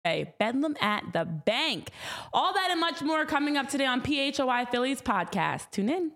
Bedlam at the Bank. All that and much more coming up today on PHOI Phillies podcast. Tune in.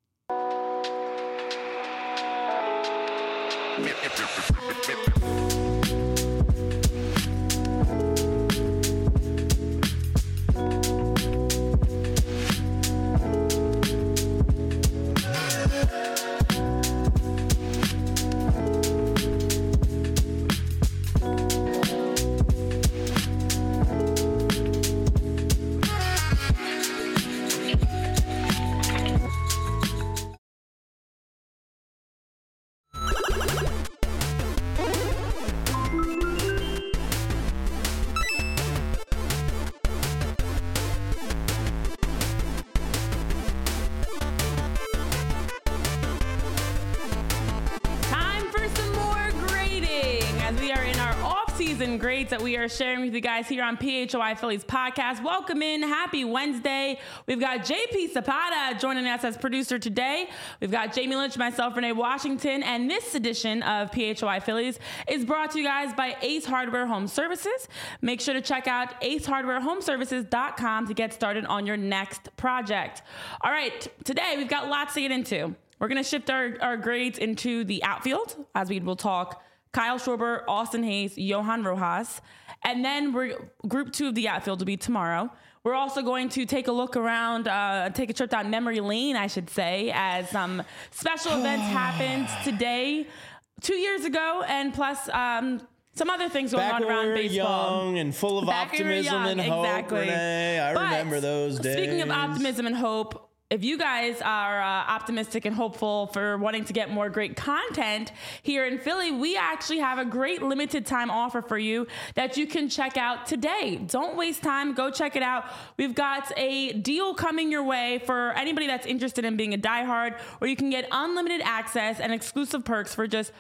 Grades that we are sharing with you guys here on PHOI Phillies podcast. Welcome in. Happy Wednesday. We've got JP Zapata joining us as producer today. We've got Jamie Lynch, myself, Renee Washington, and this edition of PHOI Phillies is brought to you guys by Ace Hardware Home Services. Make sure to check out acehardwarehomeservices.com to get started on your next project. All right, today we've got lots to get into. We're going to shift our grades into the outfield as we will talk Kyle Schwarber, Austin Hayes, Johan Rojas. And then group 2 of the outfield will be tomorrow. We're also going to take a look around, take a trip down memory lane, I should say, as some special events happened today, 2 years ago, and plus some other things going on around baseball. Young and full of optimism and hope, exactly. Renee. I remember those days. Speaking of optimism and hope, if you guys are optimistic and hopeful for wanting to get more great content here in Philly, we actually have a great limited time offer for you that you can check out today. Don't waste time. Go check it out. We've got a deal coming your way for anybody that's interested in being a diehard, where you can get unlimited access and exclusive perks for just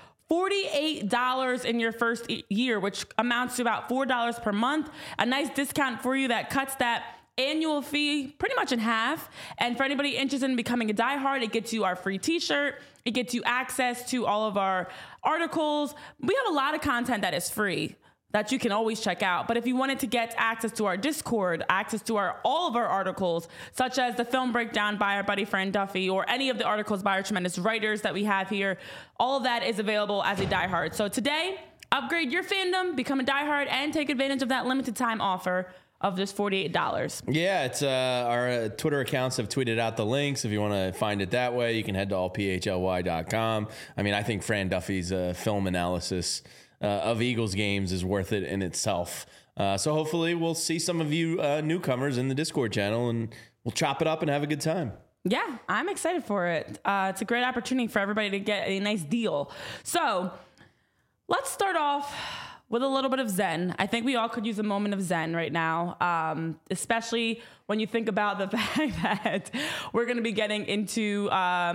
$48 in your first year, which amounts to about $4 per month. A nice discount for you that cuts that annual fee pretty much in half. And for anybody interested in becoming a diehard, it gets you our free t-shirt. It gets you access to all of our articles. We have a lot of content that is free that you can always check out. But if you wanted to get access to our Discord, access to all of our articles, such as the film breakdown by our buddy Fran Duffy, or any of the articles by our tremendous writers that we have here, all of that is available as a diehard. So today, upgrade your fandom, become a diehard, and take advantage of that limited time offer of just $48. Yeah, it's our Twitter accounts have tweeted out the links. If you want to find it that way, you can head to allphly.com. I mean, I think Fran Duffy's film analysis of Eagles games is worth it in itself. So hopefully we'll see some of you newcomers in the Discord channel, and we'll chop it up and have a good time. Yeah, I'm excited for it. It's a great opportunity for everybody to get a nice deal. So let's start off with a little bit of zen. I think we all could use a moment of zen right now, especially when you think about the fact that we're going to be getting into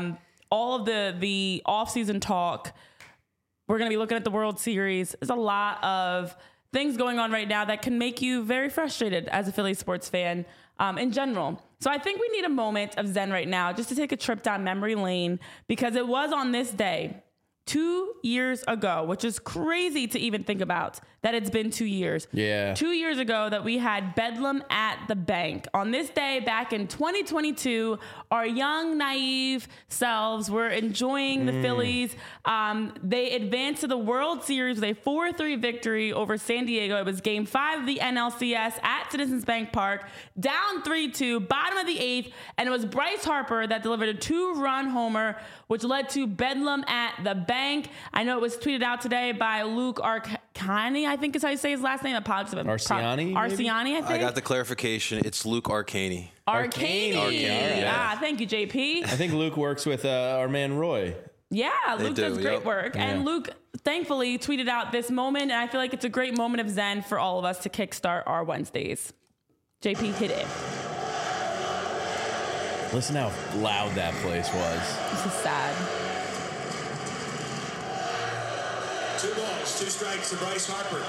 all of the off-season talk. We're going to be looking at the World Series. There's a lot of things going on right now that can make you very frustrated as a Philly sports fan in general. So I think we need a moment of zen right now just to take a trip down memory lane, because it was on this day 2 years ago, which is crazy to even think about that it's been 2 years. Yeah. 2 years ago that we had Bedlam at the Bank. On this day back in 2022, our young, naive selves were enjoying the Phillies. They advanced to the World Series with a 4-3 victory over San Diego. It was Game 5 of the NLCS at Citizens Bank Park, down 3-2, bottom of the 8th, and it was Bryce Harper that delivered a 2-run homer, which led to Bedlam at the Bank. I know it was tweeted out today by Luke Arcani, I think is how you say his last name. Apologies. Arciani, I think. I got the clarification. It's Luke Arcani. Arcani. Yeah. Thank you, JP. I think Luke works with our man Roy. Yeah, Luke does great work. Yeah. And Luke thankfully tweeted out this moment, and I feel like it's a great moment of zen for all of us to kickstart our Wednesdays. JP, hit it. Listen how loud that place was. This is sad. 2 balls, 2 strikes to Bryce Harper.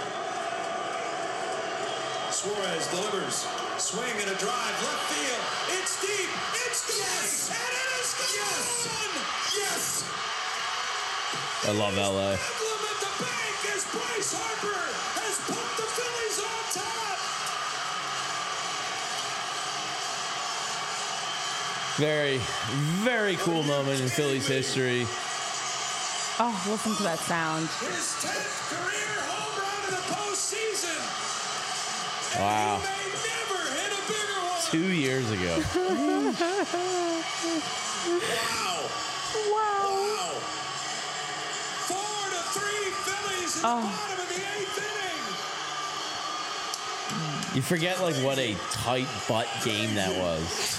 Suarez delivers. Swing and a drive. Left field. It's deep. It's gone. Yes. And it is gone. Yes. I love LA. Bedlam at the Bank as Bryce Harper has put the Phillies on top. Very, very cool moment in Phillies history. Oh, listen to that sound. His 10th career home run in the postseason. Wow. And he may never hit a bigger one. 2 years ago. Wow. Wow. 4-3 Phillies in the bottom of the 8th inning. You forget like what a tight butt game that was.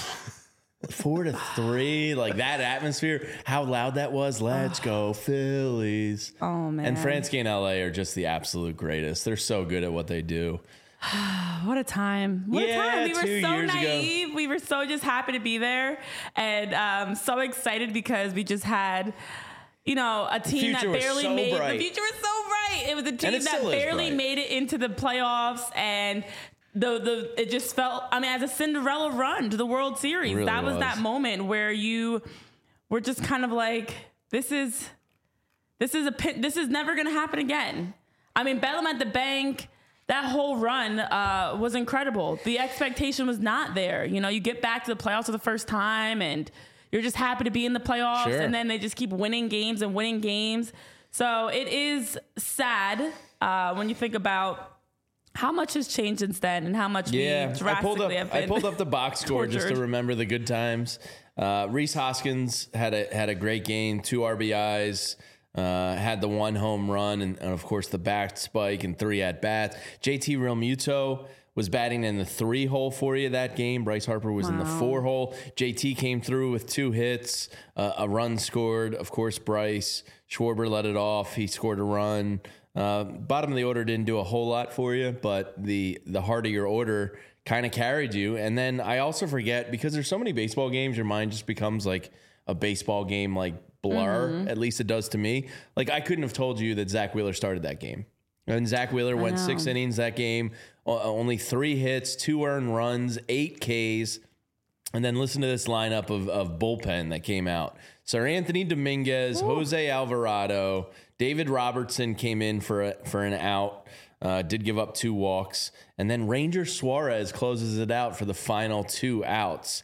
4-3, like that atmosphere, how loud that was. Let's go Phillies. Oh, man. And Franski and LA are just the absolute greatest. They're so good at what they do. What a time. What a time. We were 2 so years naive. ago. We were so just happy to be there and so excited because we just had, you know, a team that future was barely so made bright. the future was so bright. It was a team it that still is barely bright. made it into the playoffs, and it just felt, I mean, as a Cinderella run to the World Series. Really that was was. that moment where you were just kind of like, this is never going to happen again. I mean, Bedlam at the Bank, that whole run was incredible. The expectation was not there. You know, you get back to the playoffs for the first time and you're just happy to be in the playoffs. Sure. And then they just keep winning games and winning games. So it is sad when you think about how much has changed since then and how much we drastically have been I pulled up the box score just to tortured. remember the good times. Rhys Hoskins had a great game, 2 RBIs, had the 1 home run, and of course the back spike and 3 at bats. JT Realmuto was batting in the 3 hole for you that game. Bryce Harper was in the 4 hole. JT came through with 2 hits, a run scored. Of course, Bryce Schwarber let it off. He scored a run. Bottom of the order didn't do a whole lot for you, but the heart of your order kind of carried you. And then I also forget, because there's so many baseball games, your mind just becomes like a baseball game, like blur. At least it does to me. Like I couldn't have told you that Zach Wheeler started that game. And Zach Wheeler went 6 innings that game, only 3 hits, 2 earned runs, 8 Ks. And then listen to this lineup of bullpen that came out. Sir Anthony Dominguez, Jose Alvarado, David Robertson came in for an out, did give up 2 walks. And then Ranger Suarez closes it out for the final 2 outs.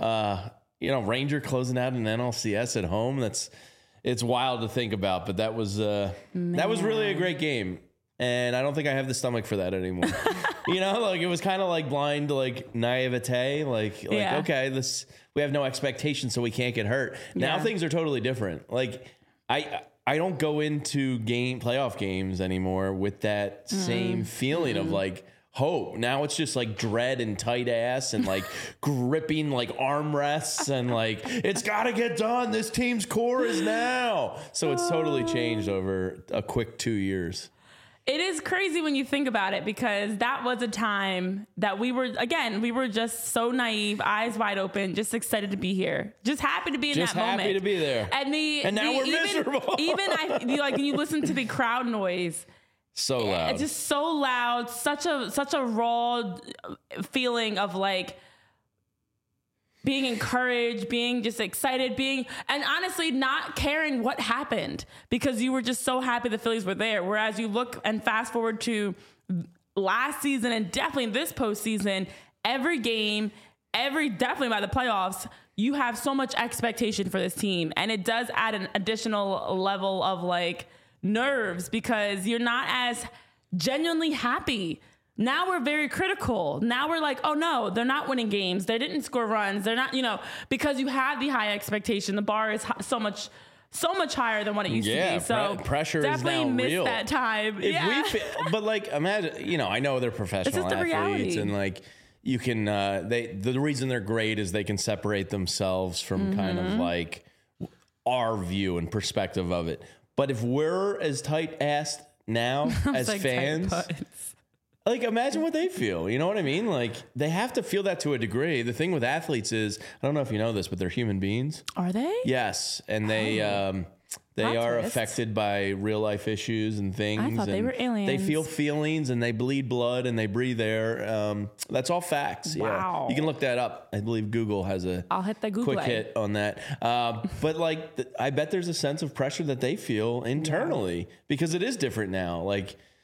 You know, Ranger closing out an NLCS at home. It's wild to think about, but that was really a great game. And I don't think I have the stomach for that anymore. You know, like it was kind of like blind, like naivete, like okay, we have no expectation, so we can't get hurt. Now things are totally different. Like I don't go into playoff games anymore with that same feeling of like hope. Now it's just like dread and tight ass and like gripping like armrests and like it's got to get done. This team's core is now. So it's totally changed over a quick 2 years. It is crazy when you think about it, because that was a time that we were just so naive, eyes wide open, just excited to be here, just happy to be in that moment. Just happy to be there. And now we're miserable. When you listen to the crowd noise, so loud. it's just so loud, such a raw feeling of like being encouraged, being just excited, and honestly not caring what happened, because you were just so happy the Phillies were there. Whereas you look and fast forward to last season and definitely this postseason, every game, definitely by the playoffs, you have so much expectation for this team. And it does add an additional level of like nerves, because you're not as genuinely happy. Now we're very critical. Now we're like, oh no, they're not winning games. They didn't score runs. They're not, because you have the high expectation. The bar is so much higher than what it used to be. So pressure definitely is now missed real. that time. But like, imagine, I know they're professional It's just the athletes, reality. and like you can, the reason they're great is they can separate themselves from kind of like our view and perspective of it. But if we're as tight-assed now as like fans, like imagine what they feel. You know what I mean? Like they have to feel that to a degree. The thing with athletes is, I don't know if you know this, but they're human beings. Are they? Yes, and they are twist. affected by real life issues and things. I thought they and were aliens. They feel feelings and they bleed blood and they breathe air. That's all facts. Wow. Yeah. You can look that up. I believe Google has I'll hit the Google quick hit on that. But like, I bet there's a sense of pressure that they feel internally because it is different now. Like,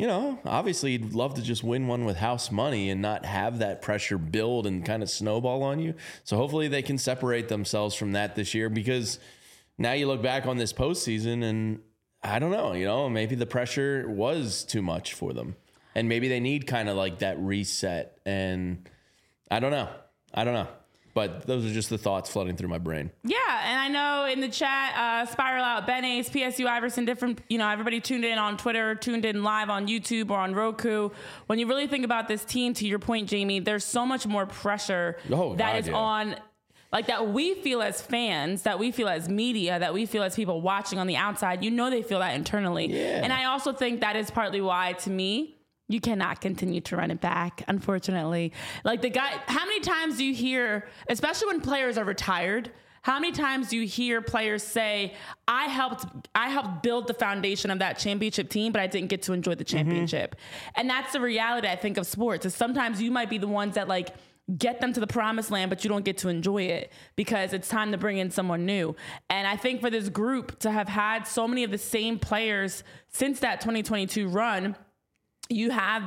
obviously you'd love to just win one with house money and not have that pressure build and kind of snowball on you. So hopefully they can separate themselves from that this year, because now you look back on this postseason and I don't know, maybe the pressure was too much for them and maybe they need kind of like that reset, and I don't know. But those are just the thoughts flooding through my brain. Yeah, and I know in the chat, Spiral Out, Ben Ace, PSU Iverson, different, everybody tuned in on Twitter, tuned in live on YouTube or on Roku. When you really think about this team, to your point, Jamie, there's so much more pressure on, like, that we feel as fans, that we feel as media, that we feel as people watching on the outside. They feel that internally. Yeah. And I also think that is partly why, to me, you cannot continue to run it back, unfortunately. Like how many times do you hear, especially when players are retired, how many times do you hear players say, I helped build the foundation of that championship team, but I didn't get to enjoy the championship. And that's the reality, I think, of sports, is sometimes you might be the ones that get them to the promised land, but you don't get to enjoy it because it's time to bring in someone new. And I think for this group to have had so many of the same players since that 2022 run, you now have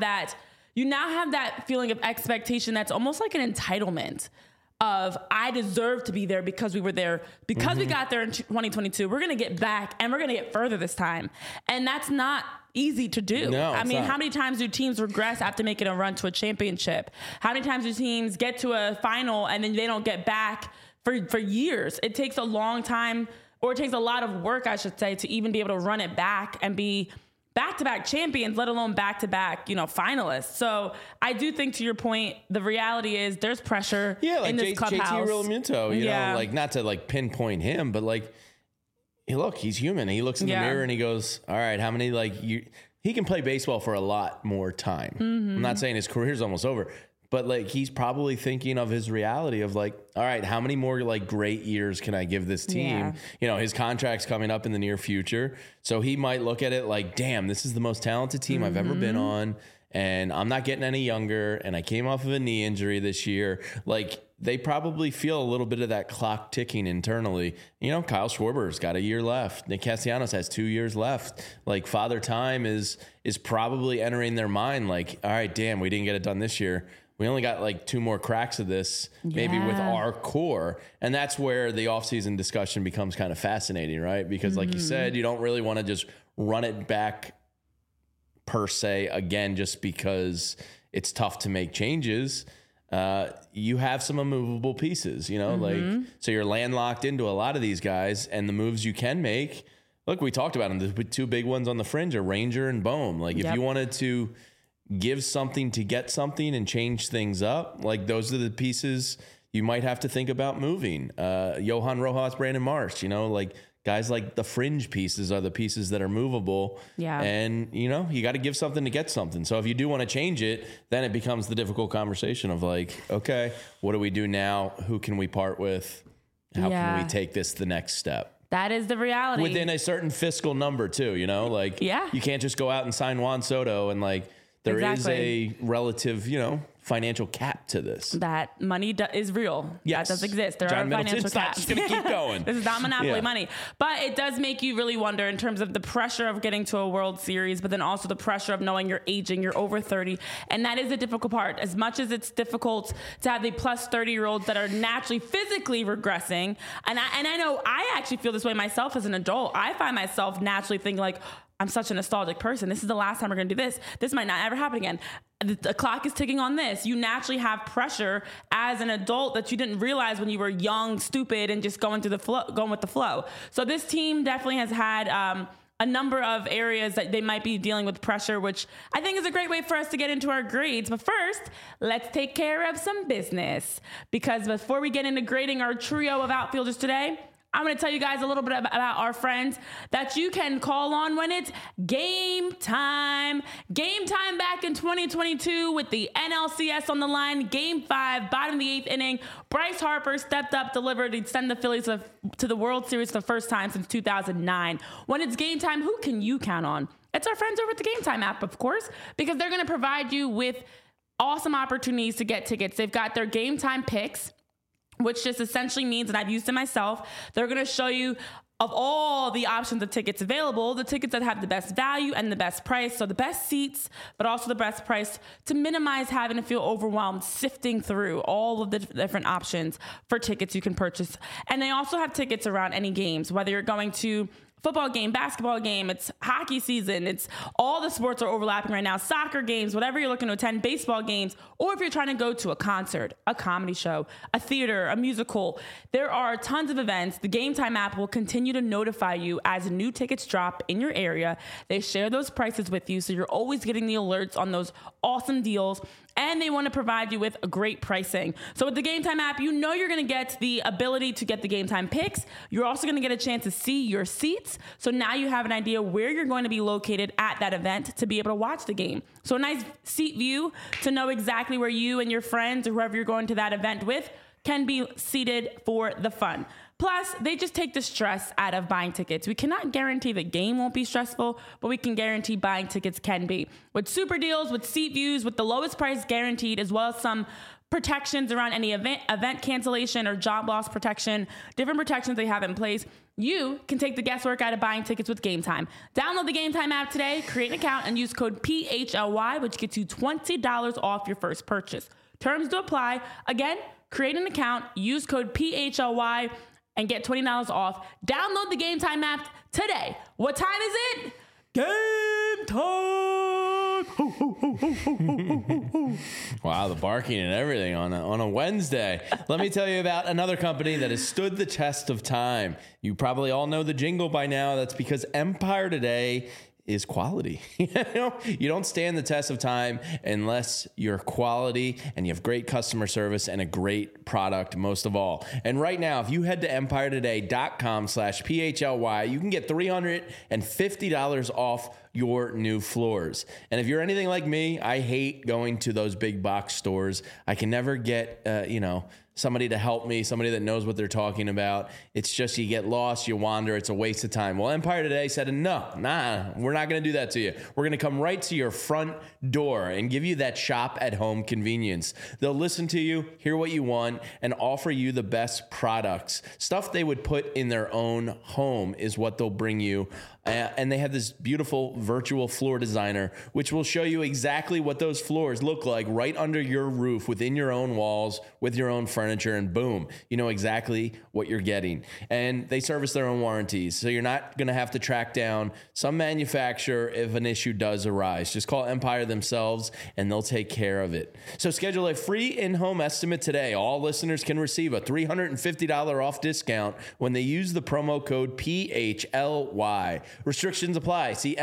that feeling of expectation that's almost like an entitlement of, I deserve to be there because we were there, because we got there in 2022. We're going to get back and we're going to get further this time. And that's not easy to do. No, I mean, not. how many times do teams regress after making a run to a championship? How many times do teams get to a final and then they don't get back for years? It takes a long time, or it takes a lot of work, I should say, to even be able to run it back and be back-to-back champions, let alone back-to-back, finalists. So I do think, to your point, the reality is there's pressure in this clubhouse. JT Realmuto, not to pinpoint him, but look, he's human. He looks in the mirror and he goes, all right, how many, he can play baseball for a lot more time. I'm not saying his career's almost over, but he's probably thinking of his reality of all right, how many more great years can I give this team? Yeah. His contract's coming up in the near future. So he might look at it damn, this is the most talented team I've ever been on. And I'm not getting any younger. And I came off of a knee injury this year. They probably feel a little bit of that clock ticking internally. Kyle Schwarber's got a year left. Nick Castellanos has 2 years left. Father Time is probably entering their mind. All right, damn, we didn't get it done this year. We only got 2 more cracks of this, maybe with our core. And that's where the offseason discussion becomes kind of fascinating, right? Because like you said, you don't really want to just run it back per se again, just because it's tough to make changes. You have some immovable pieces, so you're landlocked into a lot of these guys, and the moves you can make. Look, we talked about them. The 2 big ones on the fringe are Ranger and Bohm. If you wanted to give something to get something and change things up, those are the pieces you might have to think about moving. Johan Rojas, Brandon Marsh, guys the fringe pieces are the pieces that are movable. Yeah. And, you got to give something to get something. So if you do want to change it, then it becomes the difficult conversation of okay, what do we do now? Who can we part with? How can we take this the next step? That is the reality. Within a certain fiscal number too, you can't just go out and sign Juan Soto and there is a relative, financial cap to this. That money is real. Yes. That does exist. There John are financial caps. Just going to keep going. This is not monopoly money. But it does make you really wonder in terms of the pressure of getting to a World Series, but then also the pressure of knowing you're aging, you're over 30. And that is the difficult part. As much as it's difficult to have the plus 30-year-olds that are naturally physically regressing, and I know I actually feel this way myself as an adult. I find myself naturally thinking I'm such a nostalgic person. This is the last time we're going to do this. This might not ever happen again. The clock is ticking on this. You naturally have pressure as an adult that you didn't realize when you were young, stupid, and just going with the flow. So this team definitely has had a number of areas that they might be dealing with pressure, which I think is a great way for us to get into our grades. But first, let's take care of some business. Because before we get into grading our trio of outfielders today, I'm going to tell you guys a little bit about our friends that you can call on when it's game time. Game time back in 2022 with the NLCS on the line. Game 5, bottom of the 8th inning. Bryce Harper stepped up, delivered, to send the Phillies to the World Series for the first time since 2009. When it's game time, who can you count on? It's our friends over at the Game Time app, of course, because they're going to provide you with awesome opportunities to get tickets. They've got their Game Time picks, which just essentially means, and I've used it myself, they're going to show you of all the options of tickets available, the tickets that have the best value and the best price, so the best seats, but also the best price to minimize having to feel overwhelmed sifting through all of the different options for tickets you can purchase. And they also have tickets around any games, whether you're going to football game, basketball game, it's hockey season, it's all the sports are overlapping right now, soccer games, whatever you're looking to attend, baseball games, or if you're trying to go to a concert, a comedy show, a theater, a musical, there are tons of events. The Game Time app will continue to notify you as new tickets drop in your area. They share those prices with you, so you're always getting the alerts on those awesome deals. And they want to provide you with a great pricing. So with the Game Time app, you know you're going to get the ability to get the Game Time picks. You're also going to get a chance to see your seats. So now you have an idea where you're going to be located at that event to be able to watch the game. So a nice seat view to know exactly where you and your friends or whoever you're going to that event with can be seated for the fun. Plus, they just take the stress out of buying tickets. We cannot guarantee the game won't be stressful, but we can guarantee buying tickets can be. With super deals, with seat views, with the lowest price guaranteed, as well as some protections around any event cancellation or job loss protection, different protections they have in place, you can take the guesswork out of buying tickets with Game Time. Download the Game Time app today, create an account, and use code PHLY, which gets you $20 off your first purchase. Terms to apply. Again, create an account, use code PHLY, and get $20 off. Download the Game Time app today. What time is it? Game time! Wow, the barking and everything on a Wednesday. Let me tell you about another company that has stood the test of time. You probably all know the jingle by now. That's because Empire Today is quality. You don't stand the test of time unless you're quality and you have great customer service and a great product most of all. And right now, if you head to empiretoday.com/PHLY, you can get $350 off your new floors. And if you're anything like me, I hate going to those big box stores. I can never get, somebody to help me, somebody that knows what they're talking about. It's just you get lost, you wander, it's a waste of time. Well, Empire Today said, no, we're not going to do that to you. We're going to come right to your front door and give you that shop at home convenience. They'll listen to you, hear what you want, and offer you the best products. Stuff they would put in their own home is what they'll bring you. And they have this beautiful virtual floor designer, which will show you exactly what those floors look like right under your roof, within your own walls, with your own furniture, and boom, you know exactly what you're getting. And they service their own warranties, so you're not going to have to track down some manufacturer if an issue does arise. Just call Empire themselves, and they'll take care of it. So schedule a free in-home estimate today. All listeners can receive a $350 off discount when they use the promo code PHLY. Restrictions apply. See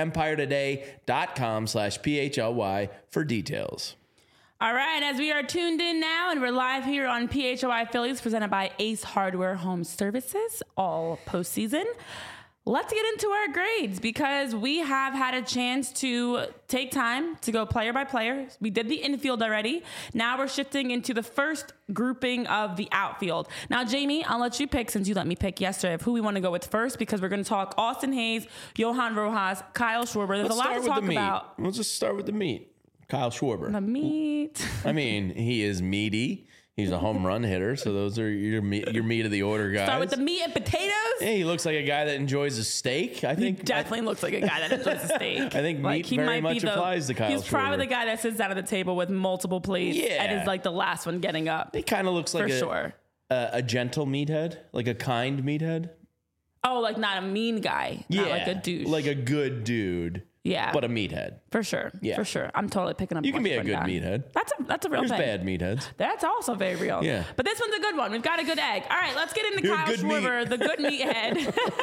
empiretoday.com/PHLY for details. All right, as we are tuned in now and we're live here on PHLY Phillies presented by Ace Hardware Home Services all postseason, let's get into our grades because we have had a chance to take time to go player by player. We did the infield already. Now we're shifting into the first grouping of the outfield. Now, Jamie, I'll let you pick since you let me pick yesterday of who we want to go with first because we're going to talk Austin Hayes, Johan Rojas, Kyle Schwarber. There's a lot to talk about. Let's just start with the meat. Kyle Schwarber. The meat. I mean, he is meaty. He's a home run hitter, so those are your meat of the order guys. Start with the meat and potatoes. Hey, he looks like a guy that enjoys a steak. I think he definitely looks like a guy that enjoys a steak. I think meat very much applies to Kyle Schwarber. He's probably the guy that sits down at the table with multiple plates and is like the last one getting up. He kind of looks like a gentle meathead, like a kind meathead. Oh, like not a mean guy, not like a douche, like a good dude. Yeah, but a meathead for sure. Yeah, for sure. I'm totally picking up. You can be a good meathead. That's a real thing. There's bad meatheads. That's also very real. Yeah, but this one's a good one. We've got a good egg. All right, let's get into Kyle Schwarber, the good meathead,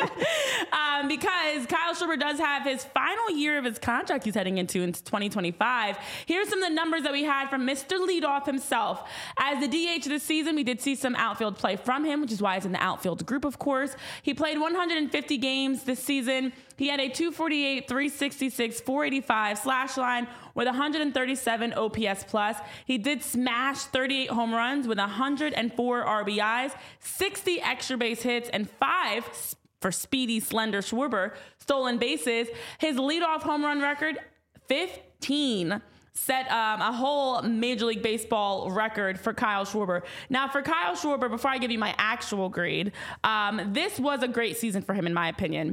because Kyle Schwarber does have his final year of his contract he's heading into in 2025. Here's some of the numbers that we had from Mr. Leadoff himself. As the DH this season, we did see some outfield play from him, which is why he's in the outfield group, of course. He played 150 games this season. He had a 248, 366, 485 slash line with 137 OPS plus. He did smash 38 home runs with 104 RBIs, 60 extra base hits, and 5 for speedy, slender Schwarber stolen bases. His leadoff home run record, 15. set a whole Major League Baseball record for Kyle Schwarber. Now, for Kyle Schwarber, before I give you my actual grade, this was a great season for him, in my opinion.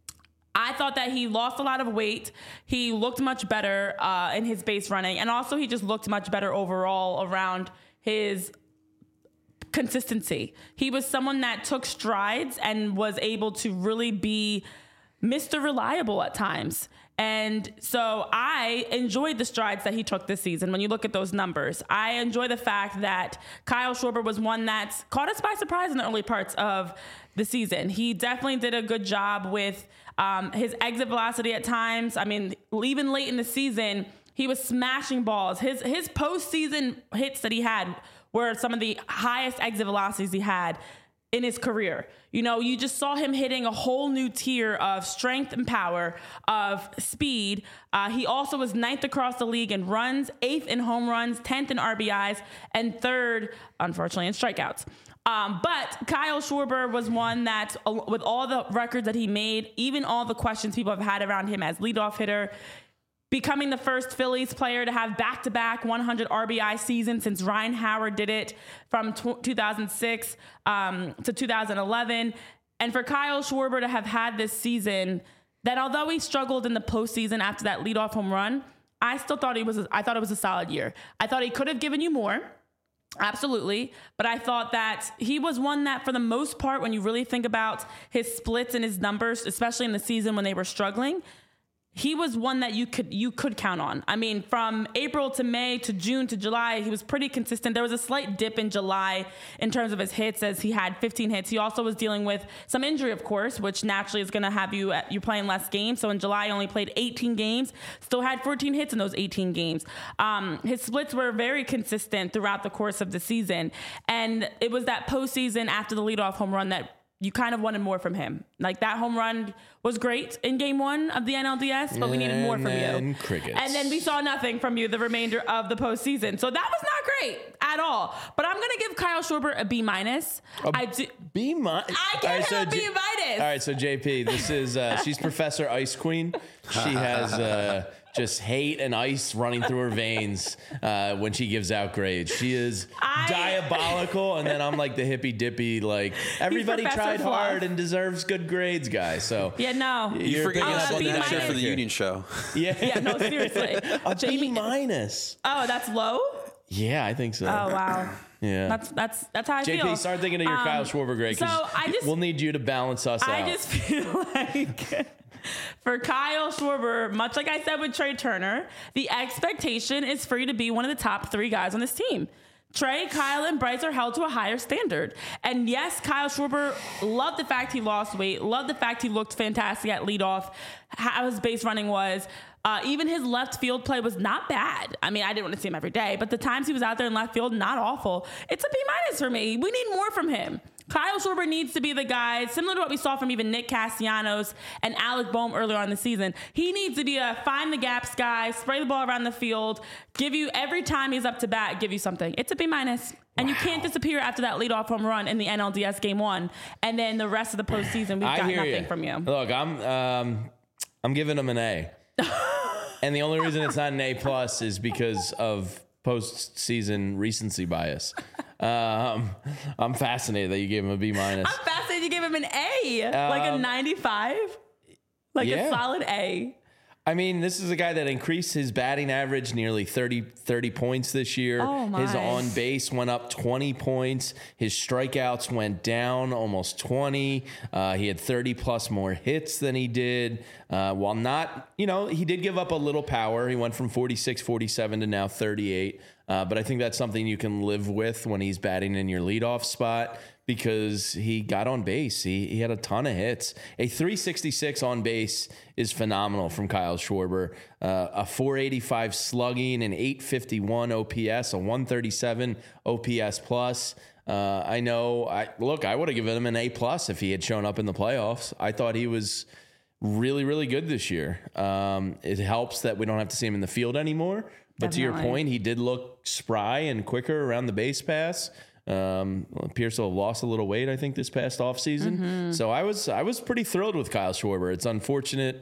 I thought that he lost a lot of weight. He looked much better in his base running, and also he just looked much better overall around his consistency. He was someone that took strides and was able to really be Mr. Reliable at times. And so I enjoyed the strides that he took this season. When you look at those numbers, I enjoy the fact that Kyle Schwarber was one that caught us by surprise in the early parts of the season. He definitely did a good job with his exit velocity at times. I mean, even late in the season, he was smashing balls. His postseason hits that he had were some of the highest exit velocities he had in his career. You know, you just saw him hitting a whole new tier of strength and power, of speed. He also was 9th across the league in runs, 8th in home runs, 10th in RBIs, and 3rd, unfortunately, in strikeouts. But Kyle Schwarber was one that, with all the records that he made, even all the questions people have had around him as leadoff hitter, becoming the first Phillies player to have back-to-back 100 RBI seasons since Ryan Howard did it from 2006 to 2011. And for Kyle Schwarber to have had this season that, although he struggled in the postseason after that leadoff home run, I thought it was a solid year. I thought he could have given you more. Absolutely. But I thought that he was one that, for the most part, when you really think about his splits and his numbers, especially in the season when they were struggling, he was one that you could count on. I mean, from April to May to June to July, he was pretty consistent. There was a slight dip in July in terms of his hits, as he had 15 hits. He also was dealing with some injury, of course, which naturally is going to have you playing less games. So in July, he only played 18 games, still had 14 hits in those 18 games. His splits were very consistent throughout the course of the season. And it was that postseason after the leadoff home run that you kind of wanted more from him. Like, that home run was great in game 1 of the NLDS, but we needed more from you. Crickets. And then we saw nothing from you the remainder of the postseason. So that was not great at all. But I'm going to give Kyle Schwarber a B-. B-? I gave him a B-. All right, so JP, this is, she's Professor Ice Queen. She has just hate and ice running through her veins when she gives out grades. She is diabolical, and then I'm like the hippy-dippy, like, everybody tried hard and deserves good grades, guy. So yeah, no. You forget you have B- that shit for the union show. Yeah, no, seriously. A Jamie- B-. Oh, that's low? Yeah, I think so. Oh, wow. Yeah. That's how I feel. JP, start thinking of your Kyle Schwarber grade, because we'll need you to balance us out. I just feel like for Kyle Schwarber, much like I said with Trey Turner, the expectation is for you to be one of the top 3 guys on this team. Trey, Kyle, and Bryce are held to a higher standard. And yes, Kyle Schwarber loved the fact he lost weight, loved the fact he looked fantastic at leadoff, how his base running was. Even his left field play was not bad. I mean, I didn't want to see him every day, but the times he was out there in left field, not awful. It's a B- for me. We need more from him. Kyle Schwarber needs to be the guy, similar to what we saw from even Nick Castellanos and Alec Boehm earlier on in the season. He needs to be a find the gaps guy, spray the ball around the field, give you, every time he's up to bat, give you something. It's a B-. And you can't disappear after that leadoff home run in the NLDS game 1. And then the rest of the postseason, we've got nothing from you. Look, I'm giving him an A. And the only reason it's not an A+ is because of postseason recency bias. I'm fascinated that you gave him a B-. I'm fascinated you gave him an A, like a 95, like a solid A. I mean, this is a guy that increased his batting average nearly 30 points this year. Oh my. His on base went up 20 points. His strikeouts went down almost 20. He had 30 plus more hits than he did. While not, he did give up a little power. He went from 46, 47 to now 38. But I think that's something you can live with when he's batting in your leadoff spot, because he got on base. He had a ton of hits. A 366 on base is phenomenal from Kyle Schwarber. A 485 slugging, an 851 OPS, a 137 OPS plus. I would have given him an A+ if he had shown up in the playoffs. I thought he was really, really good this yeyear. It helps that we don't have to see him in the field anymore. But to your point, he did look spry and quicker around the base pass. Appears to have lost a little weight, I think, this past offseason. So I was pretty thrilled with Kyle Schwarber. It's unfortunate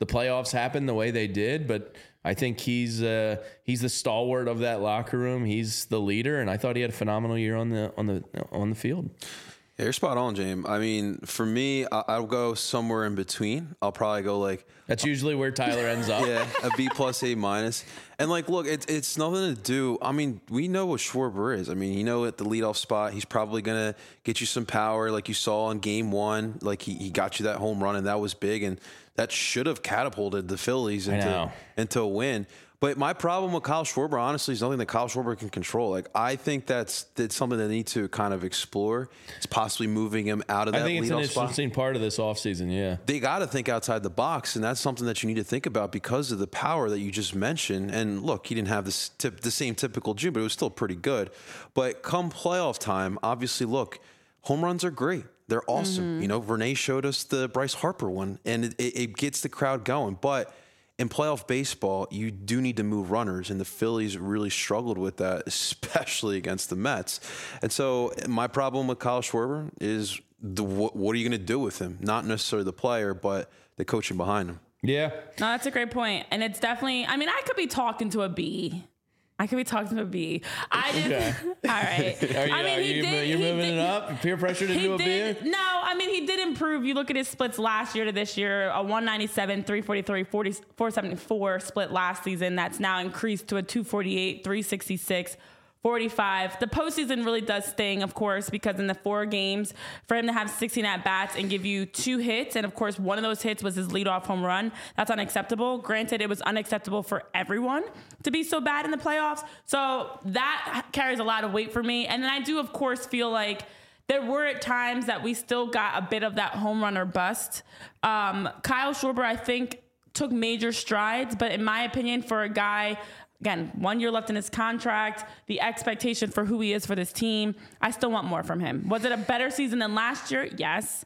the playoffs happened the way they did, but I think he's the stalwart of that locker room. He's the leader, and I thought he had a phenomenal year on the field. Yeah, you're spot on, James. I mean, for me, I'll go somewhere in between. I'll probably go like that's usually where Tyler ends up. Yeah, a B+, A-. And like, look, it's nothing to do. I mean, we know what Schwarber is. I mean, at the leadoff spot, he's probably gonna get you some power, like you saw in Game 1. Like he got you that home run, and that was big, and that should have catapulted the Phillies into a win. But my problem with Kyle Schwarber, honestly, is nothing that Kyle Schwarber can control. Like, I think that's something they need to kind of explore. It's possibly moving him out of that leadoff spot. I think it's an interesting part of this offseason, yeah. They got to think outside the box, and that's something that you need to think about because of the power that you just mentioned. And look, he didn't have the same typical June, but it was still pretty good. But come playoff time, obviously, look, home runs are great. They're awesome. Renee showed us the Bryce Harper one, and it gets the crowd going. But in playoff baseball, you do need to move runners, and the Phillies really struggled with that, especially against the Mets. And so my problem with Kyle Schwarber is what are you going to do with him? Not necessarily the player, but the coaching behind him. Yeah. No, that's a great point. And it's definitely, I mean, I could be talking to a B. I Okay. All right. You're moving it up? Peer pressure to do a beer? No, I mean, he did improve. You look at his splits last year to this year, a 197, 343, 474 split last season. That's now increased to a 248, 366, 45. The postseason really does sting, of course, because in the 4 games, for him to have 16 at-bats and give you 2 hits, and of course, one of those hits was his leadoff home run, that's unacceptable. Granted, it was unacceptable for everyone to be so bad in the playoffs, so that carries a lot of weight for me. And then I do, of course, feel like there were at times that we still got a bit of that home run or bust. Kyle Schwarber, I think, took major strides, but in my opinion, for a guy... Again, 1 year left in his contract, the expectation for who he is for this team, I still want more from him. Was it a better season than last year? Yes.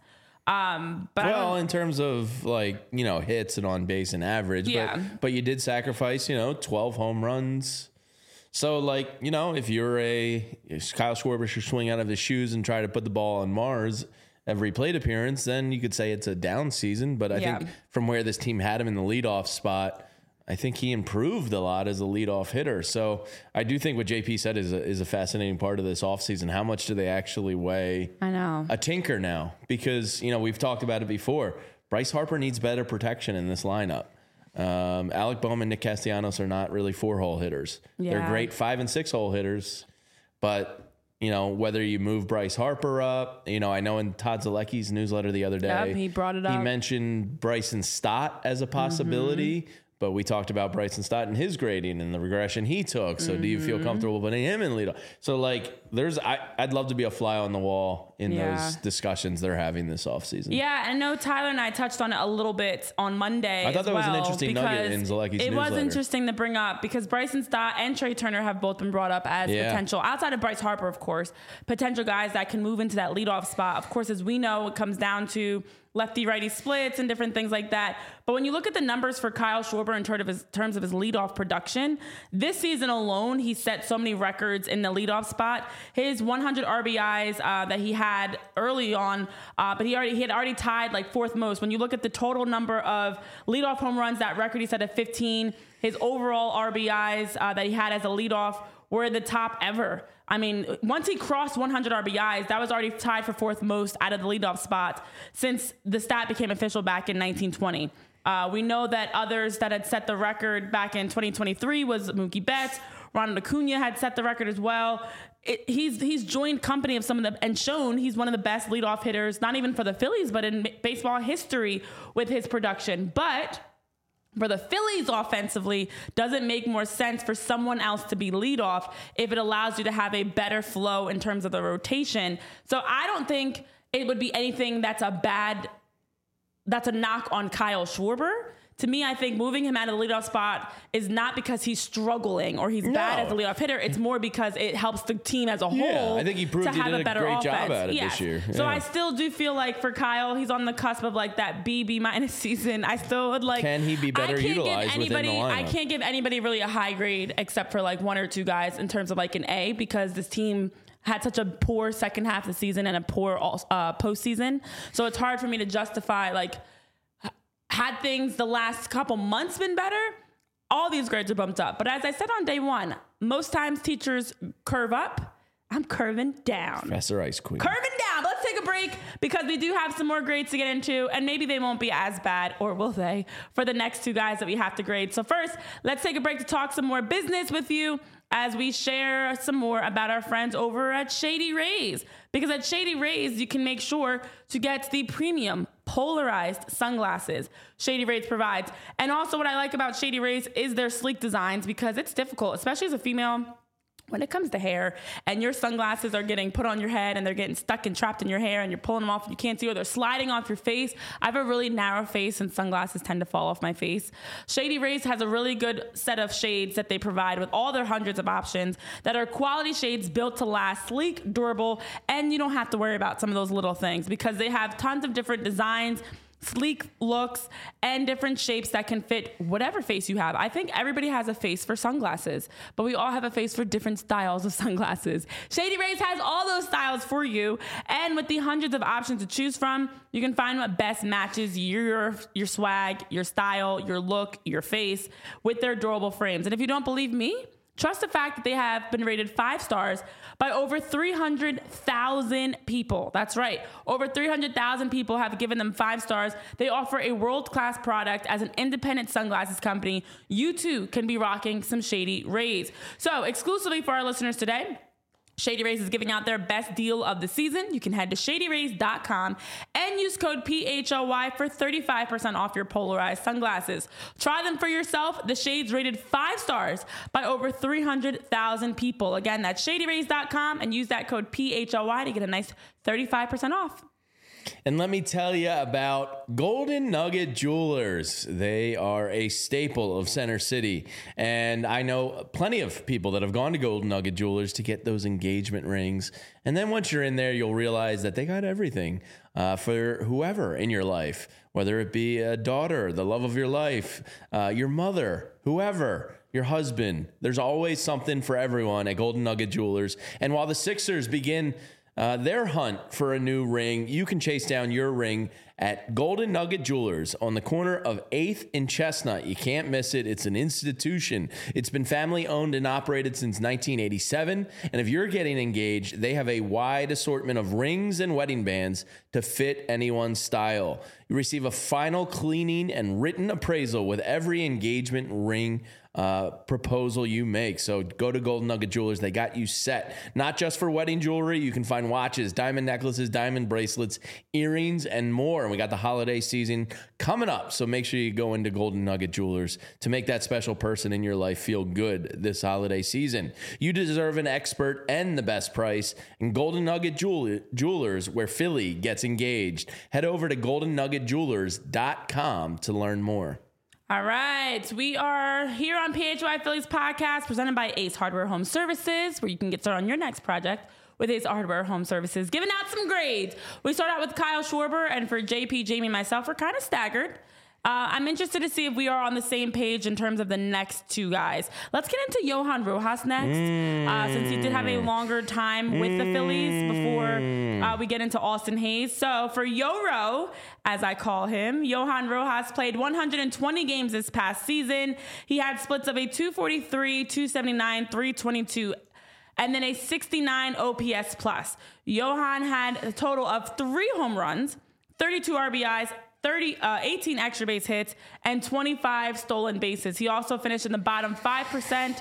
But in terms of hits and on base and average, yeah. but you did sacrifice, 12 home runs. So if you're Kyle Schwarber should swing out of his shoes and try to put the ball on Mars every plate appearance, then you could say it's a down season. But I think from where this team had him in the leadoff spot, I think he improved a lot as a leadoff hitter. So I do think what JP said is a fascinating part of this offseason. How much do they actually weigh a tinker now? Because, we've talked about it before. Bryce Harper needs better protection in this lineup. Alec Bohm and Nick Castellanos are not really 4-hole hitters. Yeah. They're great 5- and 6-hole hitters. But, whether you move Bryce Harper up, I know in Todd Zalecki's newsletter the other day, he brought it up. He mentioned Bryson Stott as a possibility. Mm-hmm. But we talked about Bryson Stott and his grading and the regression he took. So do you feel comfortable putting him in leadoff? So I'd love to be a fly on the wall in those discussions they're having this offseason. Yeah, I know Tyler and I touched on it a little bit on Monday. I thought that was an interesting nugget in Zalecki's newsletter. It was interesting to bring up because Bryson Stott and Trey Turner have both been brought up as potential, outside of Bryce Harper, of course, potential guys that can move into that leadoff spot. Of course, as we know, it comes down to lefty-righty splits and different things like that. But when you look at the numbers for Kyle Schwarber in terms of his leadoff production, this season alone, he set so many records in the leadoff spot. His 100 RBIs that he had early on, but he had already tied 4th most. When you look at the total number of leadoff home runs, that record he set at 15. His overall RBIs that he had as a leadoff were the top ever. I mean, once he crossed 100 RBIs, that was already tied for 4th most out of the leadoff spot since the stat became official back in 1920. We know that others that had set the record back in 2023 was Mookie Betts. Ronald Acuna had set the record as well. He's joined company of some of them and shown he's one of the best leadoff hitters, not even for the Phillies, but in baseball history with his production. But for the Phillies offensively, does it make more sense for someone else to be leadoff if it allows you to have a better flow in terms of the rotation? So I don't think it would be anything that's a knock on Kyle Schwarber. To me, I think moving him out of the leadoff spot is not because he's struggling or he's bad as a leadoff hitter. It's more because it helps the team as a whole. I think he proved he did a great job at it this year. So I still do feel like for Kyle, he's on the cusp of that B- season. I still would Can he be better utilized within the lineup? I can't give anybody really a high grade except for 1 or 2 guys in terms of an A, because this team had such a poor second half of the season and a poor postseason. So it's hard for me to justify had things the last couple months been better, all these grades are bumped up. But as I said on day one, most times teachers curve up. I'm curving down. Professor Ice Queen. Curving down. Let's take a break because we do have some more grades to get into, and maybe they won't be as bad, or will they, for the next two guys that we have to grade. So first, let's take a break to talk some more business with you as we share some more about our friends over at Shady Rays. Because at Shady Rays, you can make sure to get the premium polarized sunglasses Shady Rays provides. And also what I like about Shady Rays is their sleek designs, because it's difficult, especially as a female, when it comes to hair and your sunglasses are getting put on your head and they're getting stuck and trapped in your hair and you're pulling them off and you can't see, or they're sliding off your face. I have a really narrow face and sunglasses tend to fall off my face. Shady Rays has a really good set of shades that they provide with all their hundreds of options that are quality shades built to last, sleek, durable, and you don't have to worry about some of those little things because they have tons of different designs, sleek looks, and different shapes that can fit whatever face you have. I think everybody has a face for sunglasses, but we all have a face for different styles of sunglasses. Shady Rays has all those styles for you, and with the hundreds of options to choose from, you can find what best matches your swag, your style, your look, your face with their durable frames. And if you don't believe me, trust the fact that they have been rated 5 stars by over 300,000 people. That's right. Over 300,000 people have given them 5 stars. They offer a world-class product as an independent sunglasses company. You too can be rocking some Shady Rays. So exclusively for our listeners today, Shady Rays is giving out their best deal of the season. You can head to shadyrays.com and use code PHLY for 35% off your polarized sunglasses. Try them for yourself. The shades rated 5 stars by over 300,000 people. Again, that's shadyrays.com and use that code PHLY to get a nice 35% off. And let me tell you about Golden Nugget Jewelers. They are a staple of Center City. And I know plenty of people that have gone to Golden Nugget Jewelers to get those engagement rings. And then once you're in there, you'll realize that they got everything for whoever in your life, whether it be a daughter, the love of your life, your mother, whoever, your husband. There's always something for everyone at Golden Nugget Jewelers. And while the Sixers begin their hunt for a new ring, you can chase down your ring at Golden Nugget Jewelers on the corner of 8th and Chestnut. You can't miss it. It's an institution. It's been family owned and operated since 1987. And if you're getting engaged, they have a wide assortment of rings and wedding bands to fit anyone's style. You receive a final cleaning and written appraisal with every engagement ring proposal you make. So go to Golden Nugget Jewelers. They got you set. Not just for wedding jewelry. You can find watches, diamond necklaces, diamond bracelets, earrings, and more. And we got the holiday season coming up. So make sure you go into Golden Nugget Jewelers to make that special person in your life feel good this holiday season. You deserve an expert and the best price. And Golden Nugget Jewelers, where Philly gets engaged. Head over to goldennuggetjewelers.com to learn more. All right. We are here on PHY Phillies podcast presented by Ace Hardware Home Services, where you can get started on your next project with Ace Hardware Home Services. Giving out some grades. We start out with Kyle Schwarber, and for JP, Jamie, and myself, we're kind of staggered. I'm interested to see if we are on the same page in terms of the next two guys. Let's get into Johan Rojas next, since he did have a longer time with the Phillies before we get into Austin Hayes. So for Yo-Ro, as I call him, Johan Rojas played 120 games this past season. He had splits of a 243, 279, 322, and then a 69 OPS plus. Johan had a total of 3 home runs, 32 RBIs, 18 extra base hits, and 25 stolen bases. He also finished in the bottom 5%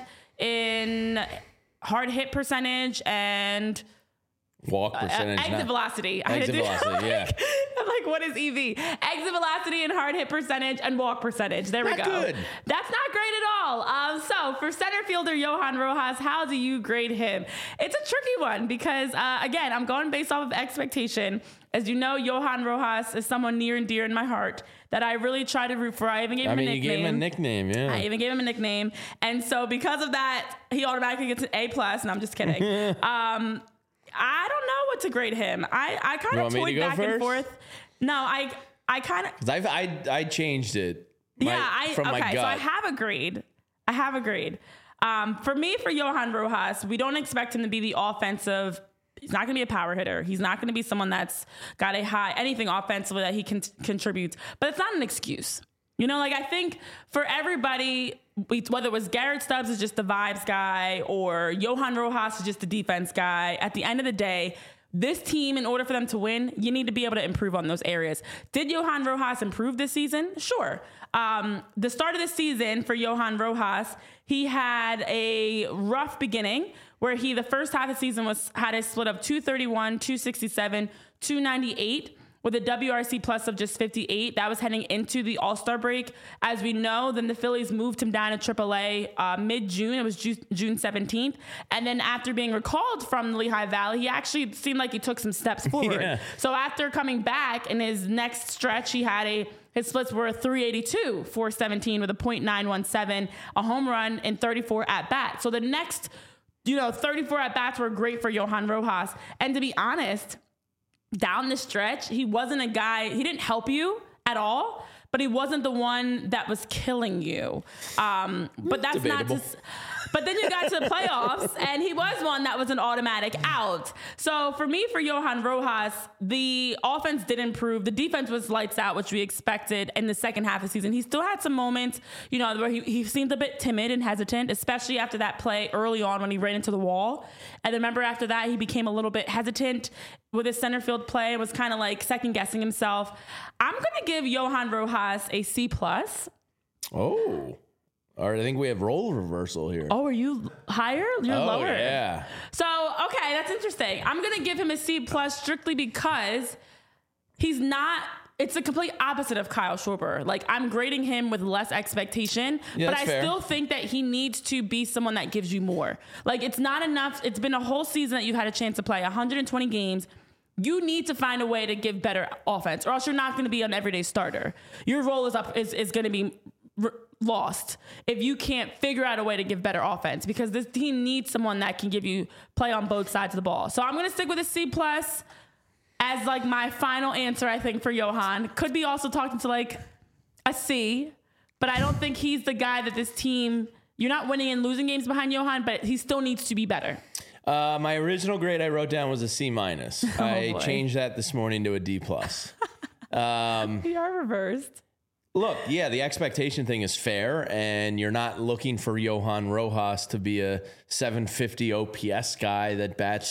in hard hit percentage and walk percentage. Exit velocity. Exit velocity, yeah. I'm like, what is EV? Exit velocity and hard hit percentage and walk percentage. There we go. Good. That's not great at all. So for center fielder Johan Rojas, how do you grade him? It's a tricky one because, again, I'm going based off of expectation. As you know, Johan Rojas is someone near and dear in my heart that I really try to root for. I even gave him a nickname. You gave him a nickname, yeah. I even gave him a nickname. And so because of that, he automatically gets an A+. And I'm just kidding. I don't know what to grade him. I kind of toyed back and forth. No, I kind of. I changed it. My gut. So I have agreed. For me, for Johan Rojas, we don't expect him to be the offensive. He's not going to be a power hitter. He's not going to be someone that's got anything offensively that he can contribute. But it's not an excuse. You know, like I think for everybody, whether it was Garrett Stubbs is just the vibes guy or Johan Rojas is just the defense guy, at the end of the day, this team, in order for them to win, you need to be able to improve on those areas. Did Johan Rojas improve this season? Sure. The start of the season for Johan Rojas, he had a rough beginning where the first half of the season had a split of 231, 267, 298. with a WRC plus of just 58. That was heading into the All-Star break. As we know, then the Phillies moved him down to AAA mid-June. It was June 17th. And then after being recalled from the Lehigh Valley, he actually seemed like he took some steps forward. Yeah. So after coming back in his next stretch, he had his splits were 382, 417 with a .917, a home run, and 34 at-bats. So the next 34 at-bats were great for Johan Rojas. And to be honest, down the stretch, he wasn't a guy, he didn't help you at all, but he wasn't the one that was killing you. But that's debatable. But then you got to the playoffs, and he was one that was an automatic out. So for me, for Johan Rojas, the offense did improve. The defense was lights out, which we expected in the second half of the season. He still had some moments, where he seemed a bit timid and hesitant, especially after that play early on when he ran into the wall. And then remember after that, he became a little bit hesitant with his center field play and was kind of like second guessing himself. I'm going to give Johan Rojas a C+. Oh. All right, I think we have role reversal here. Oh, are you higher? You're lower. Yeah. So, okay, that's interesting. I'm going to give him a C+ strictly because he's not, it's the complete opposite of Kyle Schwarber. Like, I'm grading him with less expectation, Yeah, but that's I fair. still think that he needs to be someone that gives you more. Like, it's not enough. It's been a whole season that you've had a chance to play 120 games. You need to find a way to give better offense, or else you're not going to be an everyday starter. Your role is going to be lost if you can't figure out a way to give better offense, because this team needs someone that can give you play on both sides of the ball. So I'm going to stick with a C+ as like my final answer, I think, for Johan. Could be also talking to like a C, but I don't think he's the guy that this team, you're not winning and losing games behind Johan, but he still needs to be better. My original grade I wrote down was a C-. I boy. changed that this morning to a D+. We are reversed. Look, yeah, the expectation thing is fair, and you're not looking for Johan Rojas to be a 750 OPS guy that bats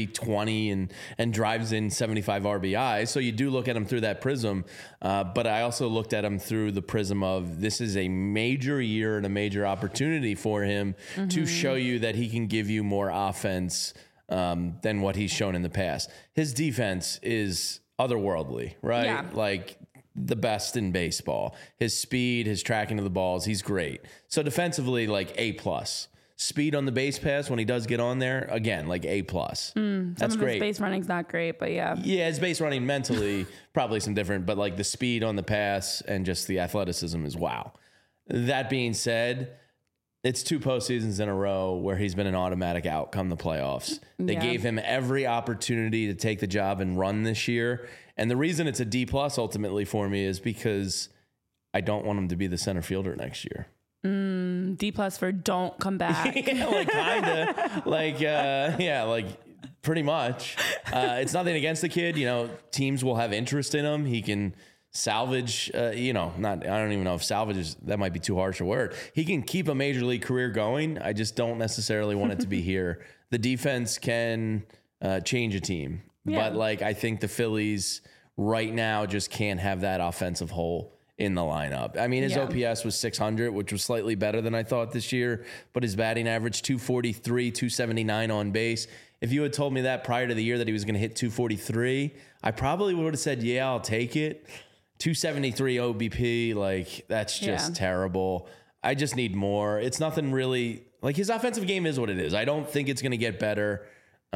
320 and drives in 75 RBI. So you do look at him through that prism, but I also looked at him through the prism of this is a major year and a major opportunity for him to show you that he can give you more offense than what he's shown in the past. His defense is otherworldly, right? Yeah. Like the best in baseball. His speed, his tracking of the balls, he's great. So defensively, like A+. Speed on the base pass when he does get on there, again, like A+. That's Some of great. his base running's not great, but yeah. Yeah, his base running mentally, probably some different, but like the speed on the pass and just the athleticism is wow. That being said, it's 2 postseasons in a row where he's been an automatic out come the playoffs. They Yeah. gave him every opportunity to take the job and run this year. And the reason it's a D+ ultimately for me is because I don't want him to be the center fielder next year. D+ for don't come back. Yeah, like kinda, like pretty much. It's nothing against the kid. Teams will have interest in him. He can salvage. I don't even know if salvage is, that might be too harsh a word. He can keep a major league career going. I just don't necessarily want it to be here. The defense can change a team, Yeah. but I think the Phillies right now just can't have that offensive hole in the lineup. I mean, his Yeah. OPS was 600, which was slightly better than I thought this year, but his batting average 243, 279 on base. If you had told me that prior to the year that he was going to hit 243, I probably would have said, yeah, I'll take it. 273 OBP, that's just terrible. I just need more. It's nothing really, his offensive game is what it is. I don't think it's going to get better.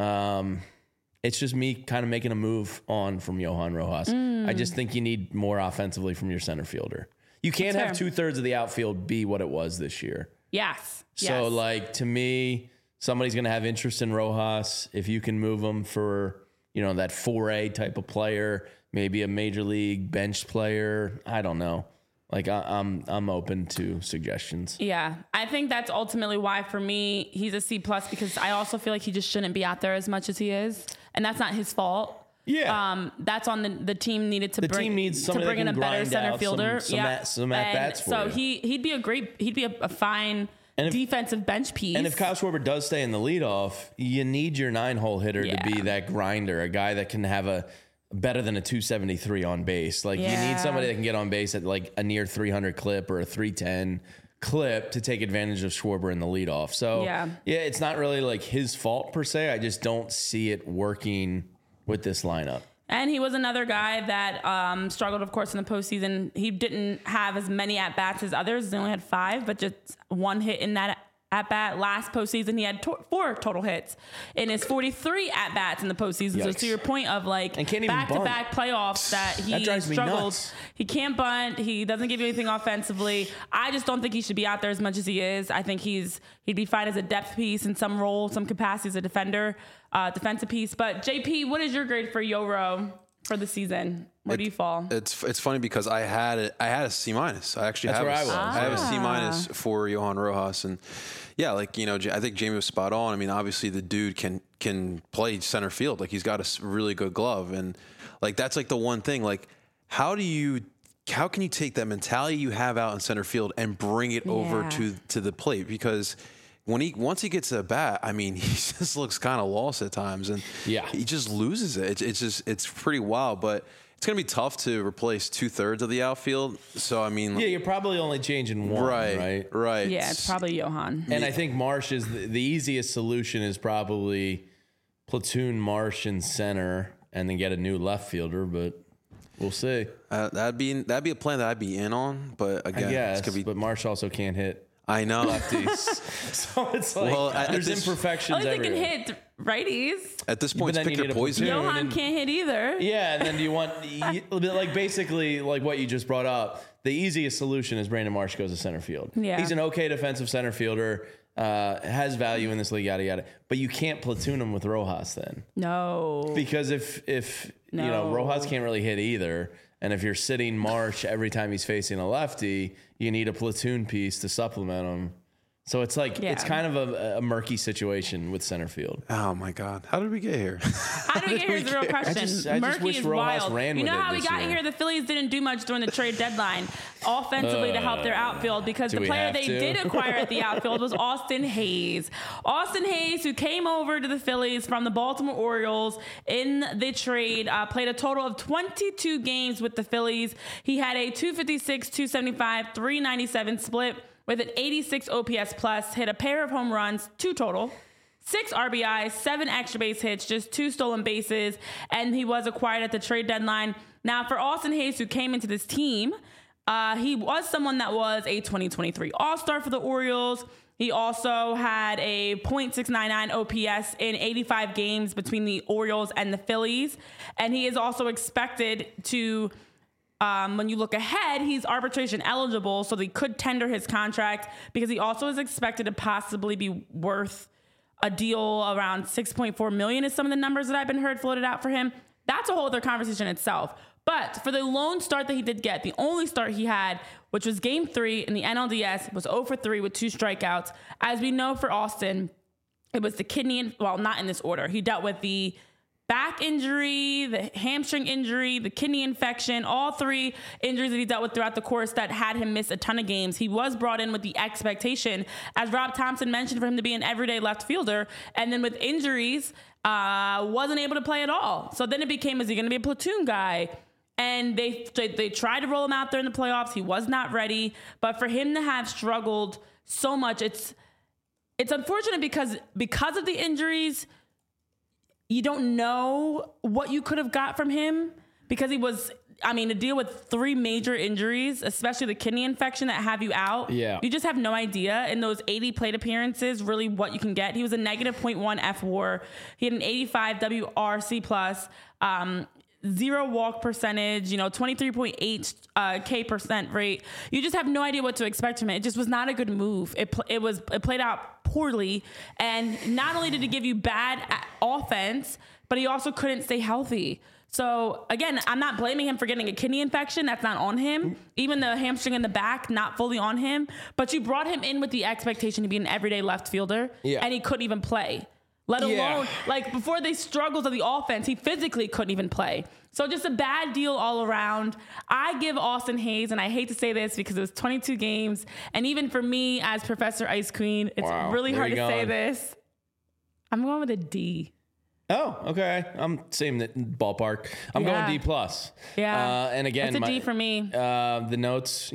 It's just me kind of making a move on from Johan Rojas. I just think you need more offensively from your center fielder. You can't have fair. 2/3 of the outfield be what it was this year. Yes. So, yes. to me, somebody's going to have interest in Rojas. If you can move him for, that 4A type of player, maybe a major league bench player. I don't know. I'm open to suggestions. Yeah, I think that's ultimately why, for me, he's a C+, because I also feel like he just shouldn't be out there as much as he is. And that's not his fault. Yeah. That's on the team needed to team needs somebody bring that in a can better grind center out fielder. some at-bats for so you. he'd be a fine defensive bench piece. And if Kyle Schwarber does stay in the leadoff, you need your 9-hole hitter to be that grinder, a guy that can have a better than a 273 on base. Like you need somebody that can get on base at like a near 300 clip or a 310 clip to take advantage of Schwarber in the leadoff. So yeah, it's not really like his fault per se. I just don't see it working with this lineup. And he was another guy that struggled, of course, in the postseason. He didn't have as many at-bats as others. He only had 5, but just 1 hit in that at-bat. Last postseason, he had 4 total hits in his 43 at-bats in the postseason. Yikes. So to your point of like back-to-back playoffs that he struggled. He can't bunt. He doesn't give you anything offensively. I just don't think he should be out there as much as he is. I think he'd be fine as a depth piece in some role, some capacity as a defender. Defensive piece. But JP, what is your grade for Yoro for the season? Where do you fall? It's funny because I had a C-. I actually have a C- for Johan Rojas, and yeah, like I think Jamie was spot on. I mean, obviously the dude can play center field. Like he's got a really good glove, and like that's like the one thing. Like how can you take that mentality you have out in center field and bring it over to the plate? Because once he gets to the bat, I mean, he just looks kind of lost at times, and he just loses it. It's pretty wild, but it's going to be tough to replace 2/3 of the outfield. So, I mean, you're probably only changing one, right? Yeah, it's probably Johan. And I think Marsh is the easiest solution is probably platoon Marsh in center and then get a new left fielder, but we'll see. That'd be a plan that I'd be in on, but again, it's gonna be. But Marsh also can't hit. I know lefties, so it's like there's imperfections everywhere. They can hit righties. At this point, it's pick your poison. Johan can't hit either. Yeah, and then do you want like basically like what you just brought up? The easiest solution is Brandon Marsh goes to center field. Yeah, he's an okay defensive center fielder. Has value in this league, yada yada. But you can't platoon him with Rojas then. No, because if Rojas can't really hit either. And if you're sitting Marsh every time he's facing a lefty, you need a platoon piece to supplement him. So it's like it's kind of a murky situation with center field. Oh my God, how did we get here? How did we get here is the real question. I just wish Rojas ran with it. You know how we got here? The Phillies didn't do much during the trade deadline offensively to help their outfield because the player they did acquire at the outfield was Austin Hayes. Austin Hayes, who came over to the Phillies from the Baltimore Orioles in the trade, played a total of 22 games with the Phillies. He had a 256, 275, 397 split. With an 86 OPS plus, hit a pair of home runs, 2 total, 6 RBIs, 7 extra base hits, just 2 stolen bases, and he was acquired at the trade deadline. Now, for Austin Hayes, who came into this team, he was someone that was a 2023 All-Star for the Orioles. He also had a .699 OPS in 85 games between the Orioles and the Phillies, and he is also expected to... when you look ahead, he's arbitration eligible, so they could tender his contract because he also is expected to possibly be worth a deal around $6.4 million is some of the numbers that I've been heard floated out for him. That's a whole other conversation itself. But for the lone start that he did get, the only start he had, which was Game 3 in the NLDS, was 0 for 3 with 2 strikeouts. As we know for Austin, it was the kidney, well, not in this order. He dealt with the back injury, the hamstring injury, the kidney infection, all 3 injuries that he dealt with throughout the course that had him miss a ton of games. He was brought in with the expectation, as Rob Thompson mentioned, for him to be an everyday left fielder. And then with injuries, wasn't able to play at all. So then it became, is he going to be a platoon guy? And they tried to roll him out there in the playoffs. He was not ready. But for him to have struggled so much, it's unfortunate because of the injuries, you don't know what you could have got from him because he was, to deal with 3 major injuries, especially the kidney infection that have you out. Yeah. You just have no idea in those 80 plate appearances, really what you can get. He was a negative .1 F-WAR. He had an 85 WRC plus, 0 walk percentage, 23.8 K percent rate. You just have no idea what to expect from it. It just was not a good move. It played out poorly, and not only did he give you bad offense, but he also couldn't stay healthy. So again, I'm not blaming him for getting a kidney infection. That's not on him. Even the hamstring in the back, not fully on him. But you brought him in with the expectation to be an everyday left fielder, and he couldn't even play. let Yeah. alone like before they struggles of the offense, he physically couldn't even play. So just a bad deal all around. I give Austin Hayes, and I hate to say this because it was 22 games, and even for me as Professor Ice Queen, it's Wow. really Where hard to you say going? this. I'm going with a D. Oh, okay. I'm same ballpark. I'm Yeah. going D plus. Yeah. And again, It's a D for me. The notes,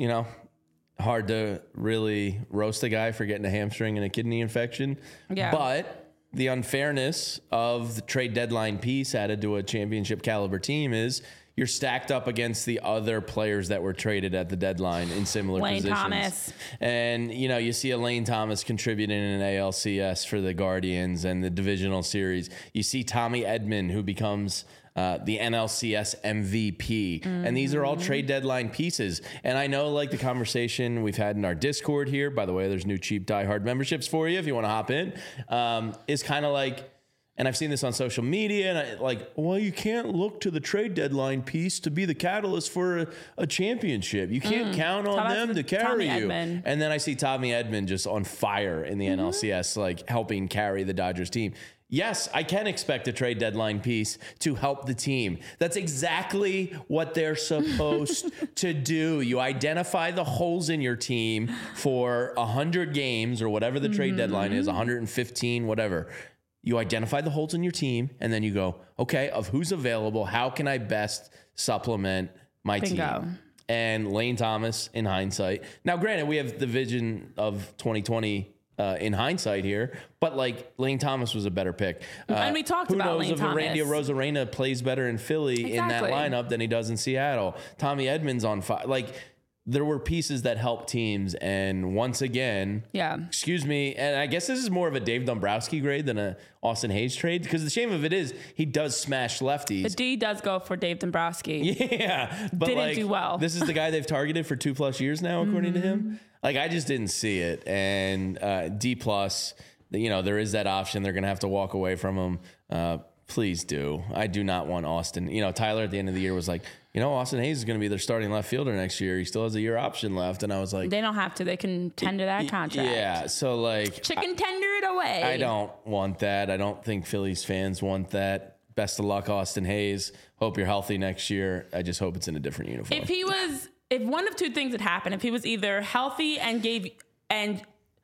hard to really roast a guy for getting a hamstring and a kidney infection. Yeah. But the unfairness of the trade deadline piece added to a championship caliber team is you're stacked up against the other players that were traded at the deadline in similar Lane positions. Thomas. And, you see a Lane Thomas contributing in an ALCS for the Guardians and the divisional series. You see Tommy Edman, who becomes the NLCS MVP. And these are all trade deadline pieces. And I know, like the conversation we've had in our Discord here, by the way, there's new cheap diehard memberships for you if you want to hop in, is kind of like, and I've seen this on social media, and well, you can't look to the trade deadline piece to be the catalyst for a championship. You can't count on them to carry you. Edman. And then I see Tommy Edman just on fire in the NLCS, like helping carry the Dodgers team. Yes, I can expect a trade deadline piece to help the team. That's exactly what they're supposed to do. You identify the holes in your team for 100 games or whatever the trade deadline is, 115, whatever. You identify the holes in your team, and then you go, okay, of who's available, how can I best supplement my Bingo. team? And Lane Thomas, in hindsight. Now, granted, we have the vision of 2020 in hindsight here, but Lane Thomas was a better pick. And we talked about Who Lane knows if Randy Thomas. Arozarena plays better in Philly in that Exactly. lineup than he does in Seattle? Tommy Edman's on fire. There were pieces that helped teams, and once again, excuse me, and I guess this is more of a Dave Dombrowski grade than a Austin Hayes trade, because the shame of it is he does smash lefties. The D does go for Dave Dombrowski. Yeah, but Didn't do well. This is the guy they've targeted for 2+ years now, according to him. I just didn't see it, and D plus. There is that option. They're gonna have to walk away from him. Please do. I do not want Austin. Tyler at the end of the year was like, Austin Hayes is going to be their starting left fielder next year. He still has a year option left. And I was like, They don't have to. They can tender that contract. yeah. So Chicken tender it away. I don't want that. I don't think Phillies fans want that. Best of luck, Austin Hayes. Hope you're healthy next year. I just hope it's in a different uniform. If one of two things had happened, if he was either healthy and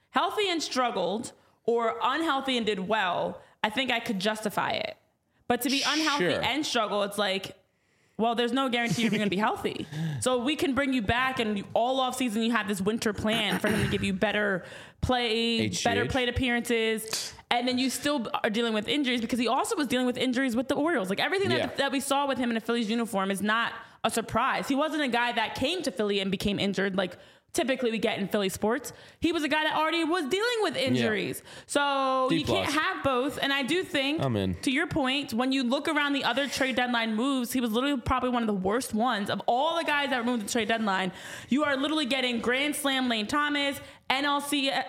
struggled, or unhealthy and did well, I think I could justify it. But to be unhealthy Sure. and struggle, it's like, well, there's no guarantee you're going to be healthy. So we can bring you back, and all off season you have this winter plan for him to give you better play, HGH. better plate appearances, and then you still are dealing with injuries, because he also was dealing with injuries with the Orioles. Everything that we saw with him in a Phillies uniform is not a surprise. He wasn't a guy that came to Philly and became injured like typically we get in Philly sports. He was a guy that already was dealing with injuries. So D you can't plus. have both. And I do think, I'm in. to your point, when you look around the other trade deadline moves, he was literally probably one of the worst ones. Of all the guys that were moved to trade deadline, you are literally getting Grand Slam Lane Thomas, NLCS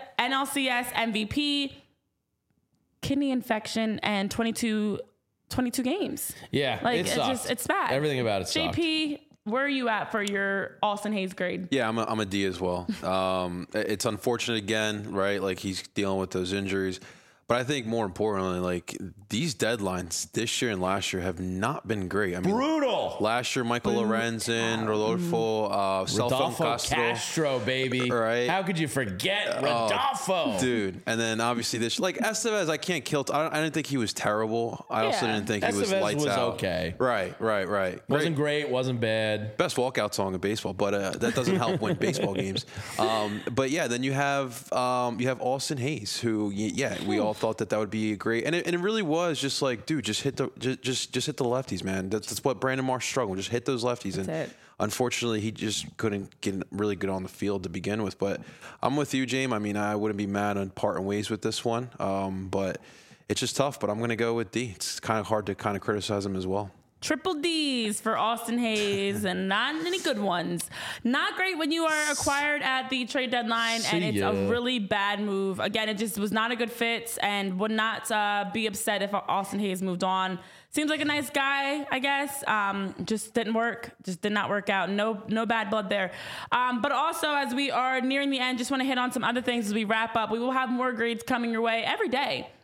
MVP, kidney infection, and 22 games. Yeah, it sucked. It's bad. Everything about it sucked. JP, where are you at for your Austin Hayes grade? Yeah, I'm a D as well. It's unfortunate again, right? He's dealing with those injuries. But I think more importantly, these deadlines this year and last year have not been great. I mean, Brutal. last year, Michael Lorenzen, Rodolfo, Rodolfo Castro, baby. Right. How could you forget Rodolfo? Dude. And then obviously this, Estevez, I can't kill. I didn't think he was terrible. I also Yeah. didn't think he was Estevez lights was out. okay. Right. Wasn't great, wasn't bad. Best walkout song in baseball, but that doesn't help win baseball games. But yeah, then you have Austin Hayes, who we all thought that would be great, and it really was just dude, just hit the lefties, man. That's what Brandon Marsh struggled. Just hit those lefties, and That's it. unfortunately, he just couldn't get really good on the field to begin with. But I'm with you, James. I mean, I wouldn't be mad on parting ways with this one, but it's just tough. But I'm going to go with D. It's kind of hard to kind of criticize him as well. Triple D's for Austin Hayes, and not any good ones. Not great when you are acquired at the trade deadline, and See it's ya. a really bad move. Again, it just was not a good fit, and would not be upset if Austin Hayes moved on. Seems like a nice guy, I guess. Just didn't work. Just did not work out. No bad blood there. But also, as we are nearing the end, just want to hit on some other things as we wrap up. We will have more grades coming your way every day.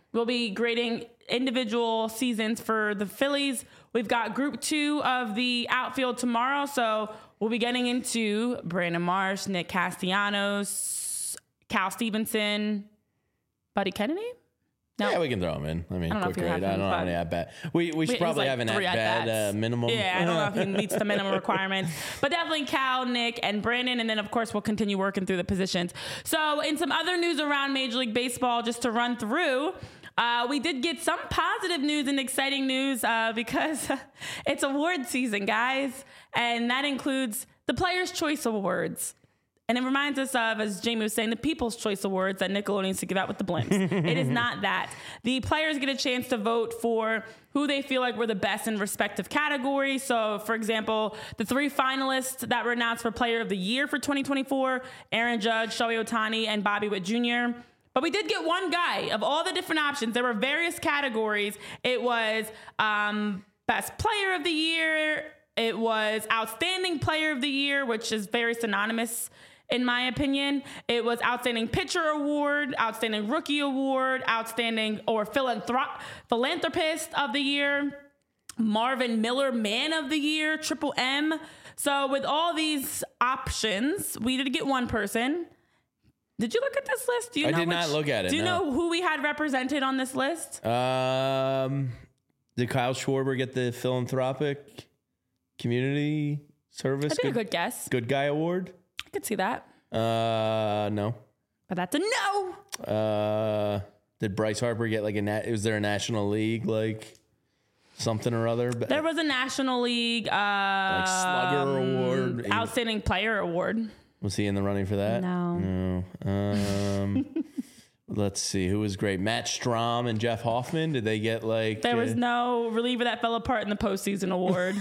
We'll be grading individual seasons for the Phillies. We've got group 2 of the outfield tomorrow. So we'll be getting into Brandon Marsh, Nick Castellanos, Cal Stevenson, Buddy Kennedy. No. Yeah, we can throw him in. I mean, I don't know quick if you grade. have I him, don't have any at bat. We should probably have an at bat minimum. Yeah, I don't know if he meets the minimum requirements, but definitely Cal, Nick, and Brandon. And then, of course, we'll continue working through the positions. So in some other news around Major League Baseball, just to run through, we did get some positive news and exciting news because it's award season, guys. And that includes the Players' Choice Awards. And it reminds us of, as Jamie was saying, the People's Choice Awards that Nickelodeon used to give out with the blimps. It is not that. The players get a chance to vote for who they feel like were the best in respective categories. So, for example, the 3 finalists that were announced for Player of the Year for 2024, Aaron Judge, Shohei Ohtani, and Bobby Witt Jr. But we did get one guy. Of all the different options, there were various categories. It was Best Player of the Year. It was Outstanding Player of the Year, which is very synonymous in my opinion. It was Outstanding Pitcher Award, Outstanding Rookie Award, Outstanding or Philanthropist of the Year, Marvin Miller Man of the Year, Triple M. So with all these options, we did get one person. Did you look at this list? Do you I know did not look at it. Do you know who we had represented on this list? Did Kyle Schwarber get the Philanthropic Community Service? That'd be a good guess. Good Guy Award? I could see that. No. But that's a no. Did Bryce Harper get like was there a National League like something or other? There was a National League like Slugger Award. Outstanding Player Award. Was he in the running for that? No. Let's see. Who was great? Matt Strahm and Jeff Hoffman. Did they get like... There was no reliever that fell apart in the postseason award.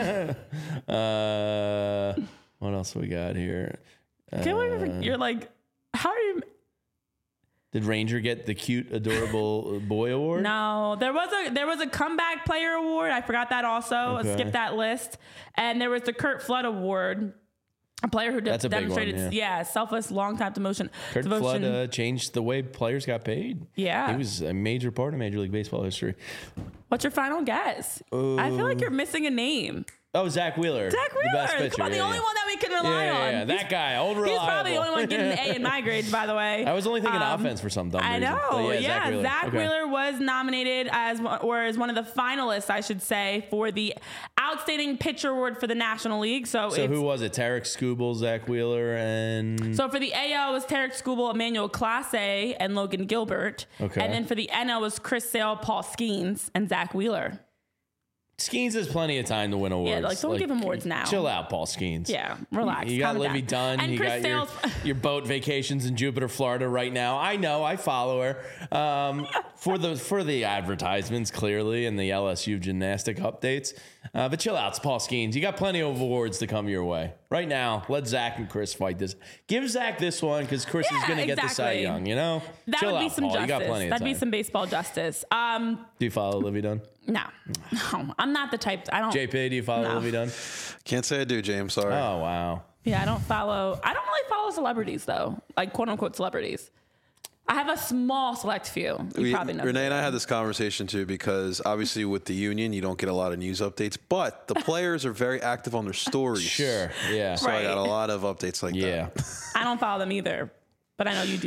What else we got here? You're like, how are you... Did Ranger get the cute, adorable boy award? No, there was a comeback player award. I forgot that also. Okay. I skipped that list. And there was the Curt Flood award. A player who That's a big one, demonstrated, selfless, long-time devotion. Curt Flood changed the way players got paid. Yeah. He was a major part of Major League Baseball history. What's your final guess? I feel like you're missing a name. Oh, Zach Wheeler. Zach Wheeler. The best pitcher. Come on, the only one that we can rely on. Yeah, that guy. Old reliable. He's probably the only one getting an A in my grades, by the way. I was only thinking offense for some dumb reason. I know. But Zach Wheeler was nominated as one of the finalists, I should say, for the Outstanding Pitcher Award for the National League. So who was it? Tarek Skubal, Zach Wheeler, and... So for the AL was Tarek Skubal, Emmanuel Clase, and Logan Gilbert. Okay. And then for the NL was Chris Sale, Paul Skeens, and Zach Wheeler. Skeens has plenty of time to win awards. Yeah, don't give him awards now. Chill out, Paul Skeens. Yeah, relax. You got Livy Dunn. And you Chris got your boat vacations in Jupiter, Florida right now. I know. I follow her for the advertisements, clearly, and the LSU gymnastic updates. But chill out, it's Paul Skeens. You got plenty of awards to come your way. Right now, let Zach and Chris fight this. Give Zach this one because Chris is going to get the Cy Young, you know? That chill would be out, some Paul. justice. You got plenty of That'd time. be some baseball justice. Do you follow Livy Dunn? No, I'm not the type. I don't. JP, do you follow Livy Dunn? Can't say I do, James. Sorry. Oh, wow. Yeah, I don't really follow celebrities though, like quote unquote celebrities. I have a small select few. You probably know. Renee and I had this conversation too because obviously with the union you don't get a lot of news updates, but the players are very active on their stories. Sure. Yeah. So I got a lot of updates like that. I don't follow them either. But I know you do,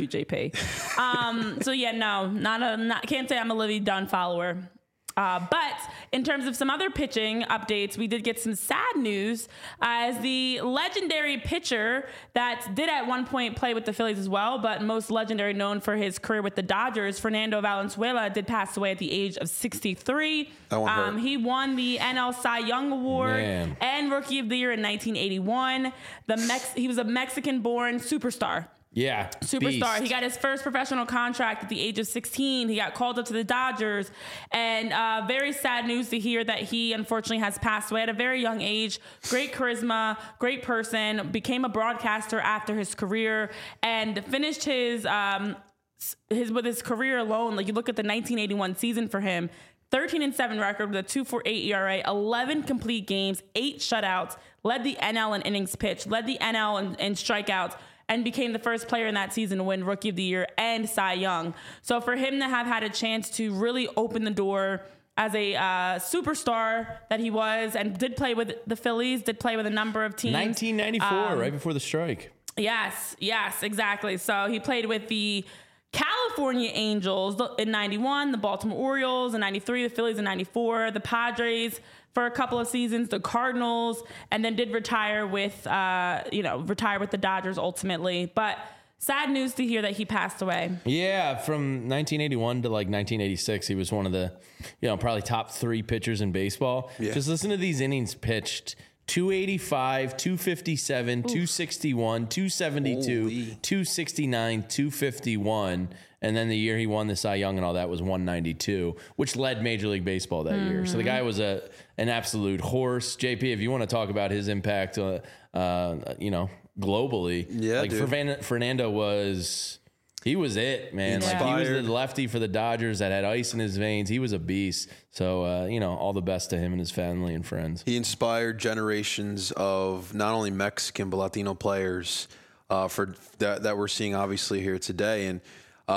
JP. So yeah, no, can't say I'm a Livy Dunn follower. But in terms of some other pitching updates, we did get some sad news as the legendary pitcher that did at one point play with the Phillies as well, but most legendary known for his career with the Dodgers, Fernando Valenzuela, did pass away at the age of 63. That one hurt. He won the NL Cy Young Award and Rookie of the Year in 1981. He was a Mexican-born superstar. Yeah. Superstar. Beast. He got his first professional contract at the age of 16. He got called up to the Dodgers. And very sad news to hear that he unfortunately has passed away at a very young age. Great charisma, great person, became a broadcaster after his career and finished his with his career alone. Like you look at the 1981 season for him, 13-7 record with a 2.48 ERA, 11 complete games, 8 shutouts, led the NL in innings pitched, led the NL in strikeouts, and became the first player in that season to win Rookie of the Year and Cy Young. So for him to have had a chance to really open the door as a superstar that he was, and did play with the Phillies, did play with a number of teams. 1994, right before the strike. Yes, exactly. So he played with the California Angels in 91, the Baltimore Orioles in 93, the Phillies in 94, the Padres for a couple of seasons, the Cardinals, and then did retire with the Dodgers ultimately. But sad news to hear that he passed away. Yeah, from 1981 to like 1986, he was one of the, probably top 3 pitchers in baseball. Yeah. Just listen to these innings pitched. 285, 257, 261, 272, 269, 251. And then the year he won the Cy Young and all that was 192, which led Major League Baseball that year. So the guy was an absolute horse. JP, if you want to talk about his impact, globally, Fernando was... He was it, man. Like, he was the lefty for the Dodgers that had ice in his veins. He was a beast. So, all the best to him and his family and friends. He inspired generations of not only Mexican but Latino players for that we're seeing obviously here today. And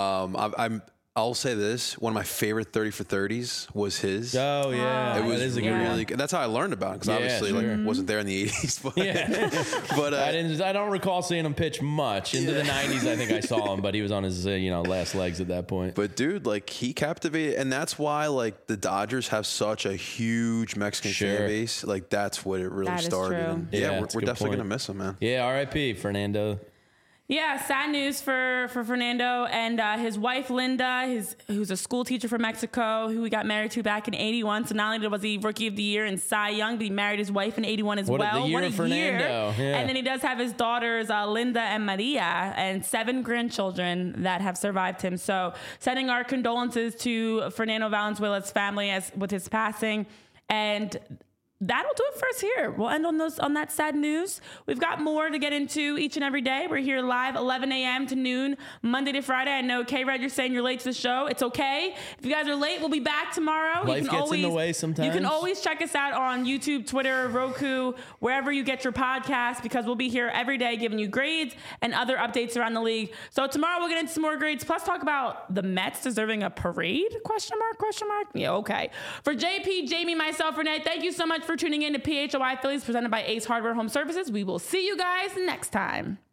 I'll say this: one of my favorite 30 for 30s was his. Oh yeah, it was really good. That's how I learned about it, because obviously wasn't there in the 80s. But I don't recall seeing him pitch much into the 90s. I think I saw him, but he was on his last legs at that point. But dude, like, he captivated, and that's why like the Dodgers have such a huge Mexican fan base. Like, that's what it really started. And we're definitely gonna miss him, man. Yeah, R.I.P. Fernando. Yeah, sad news for Fernando and his wife, Linda, who's a school teacher from Mexico, who he got married to back in 81. So not only was he Rookie of the Year and Cy Young, but he married his wife in 81 as well. The year of Fernando. Yeah. And then he does have his daughters, Linda and Maria, and 7 grandchildren that have survived him. So sending our condolences to Fernando Valenzuela's family with his passing. And that'll do it for us here. We'll end on that sad news. We've got more to get into each and every day. We're here live 11 a.m. to noon, Monday to Friday. I know, K-Red, you're saying you're late to the show. It's okay. If you guys are late, we'll be back tomorrow. Life gets in the way sometimes. You can always check us out on YouTube, Twitter, Roku, wherever you get your podcasts, because we'll be here every day giving you grades and other updates around the league. So tomorrow we'll get into some more grades, plus talk about the Mets deserving a parade? Question mark? Yeah, okay. For JP, Jamie, myself, Renee, thank you so much for tuning in to PHLY Phillies presented by Ace Hardware Home Services. We will see you guys next time.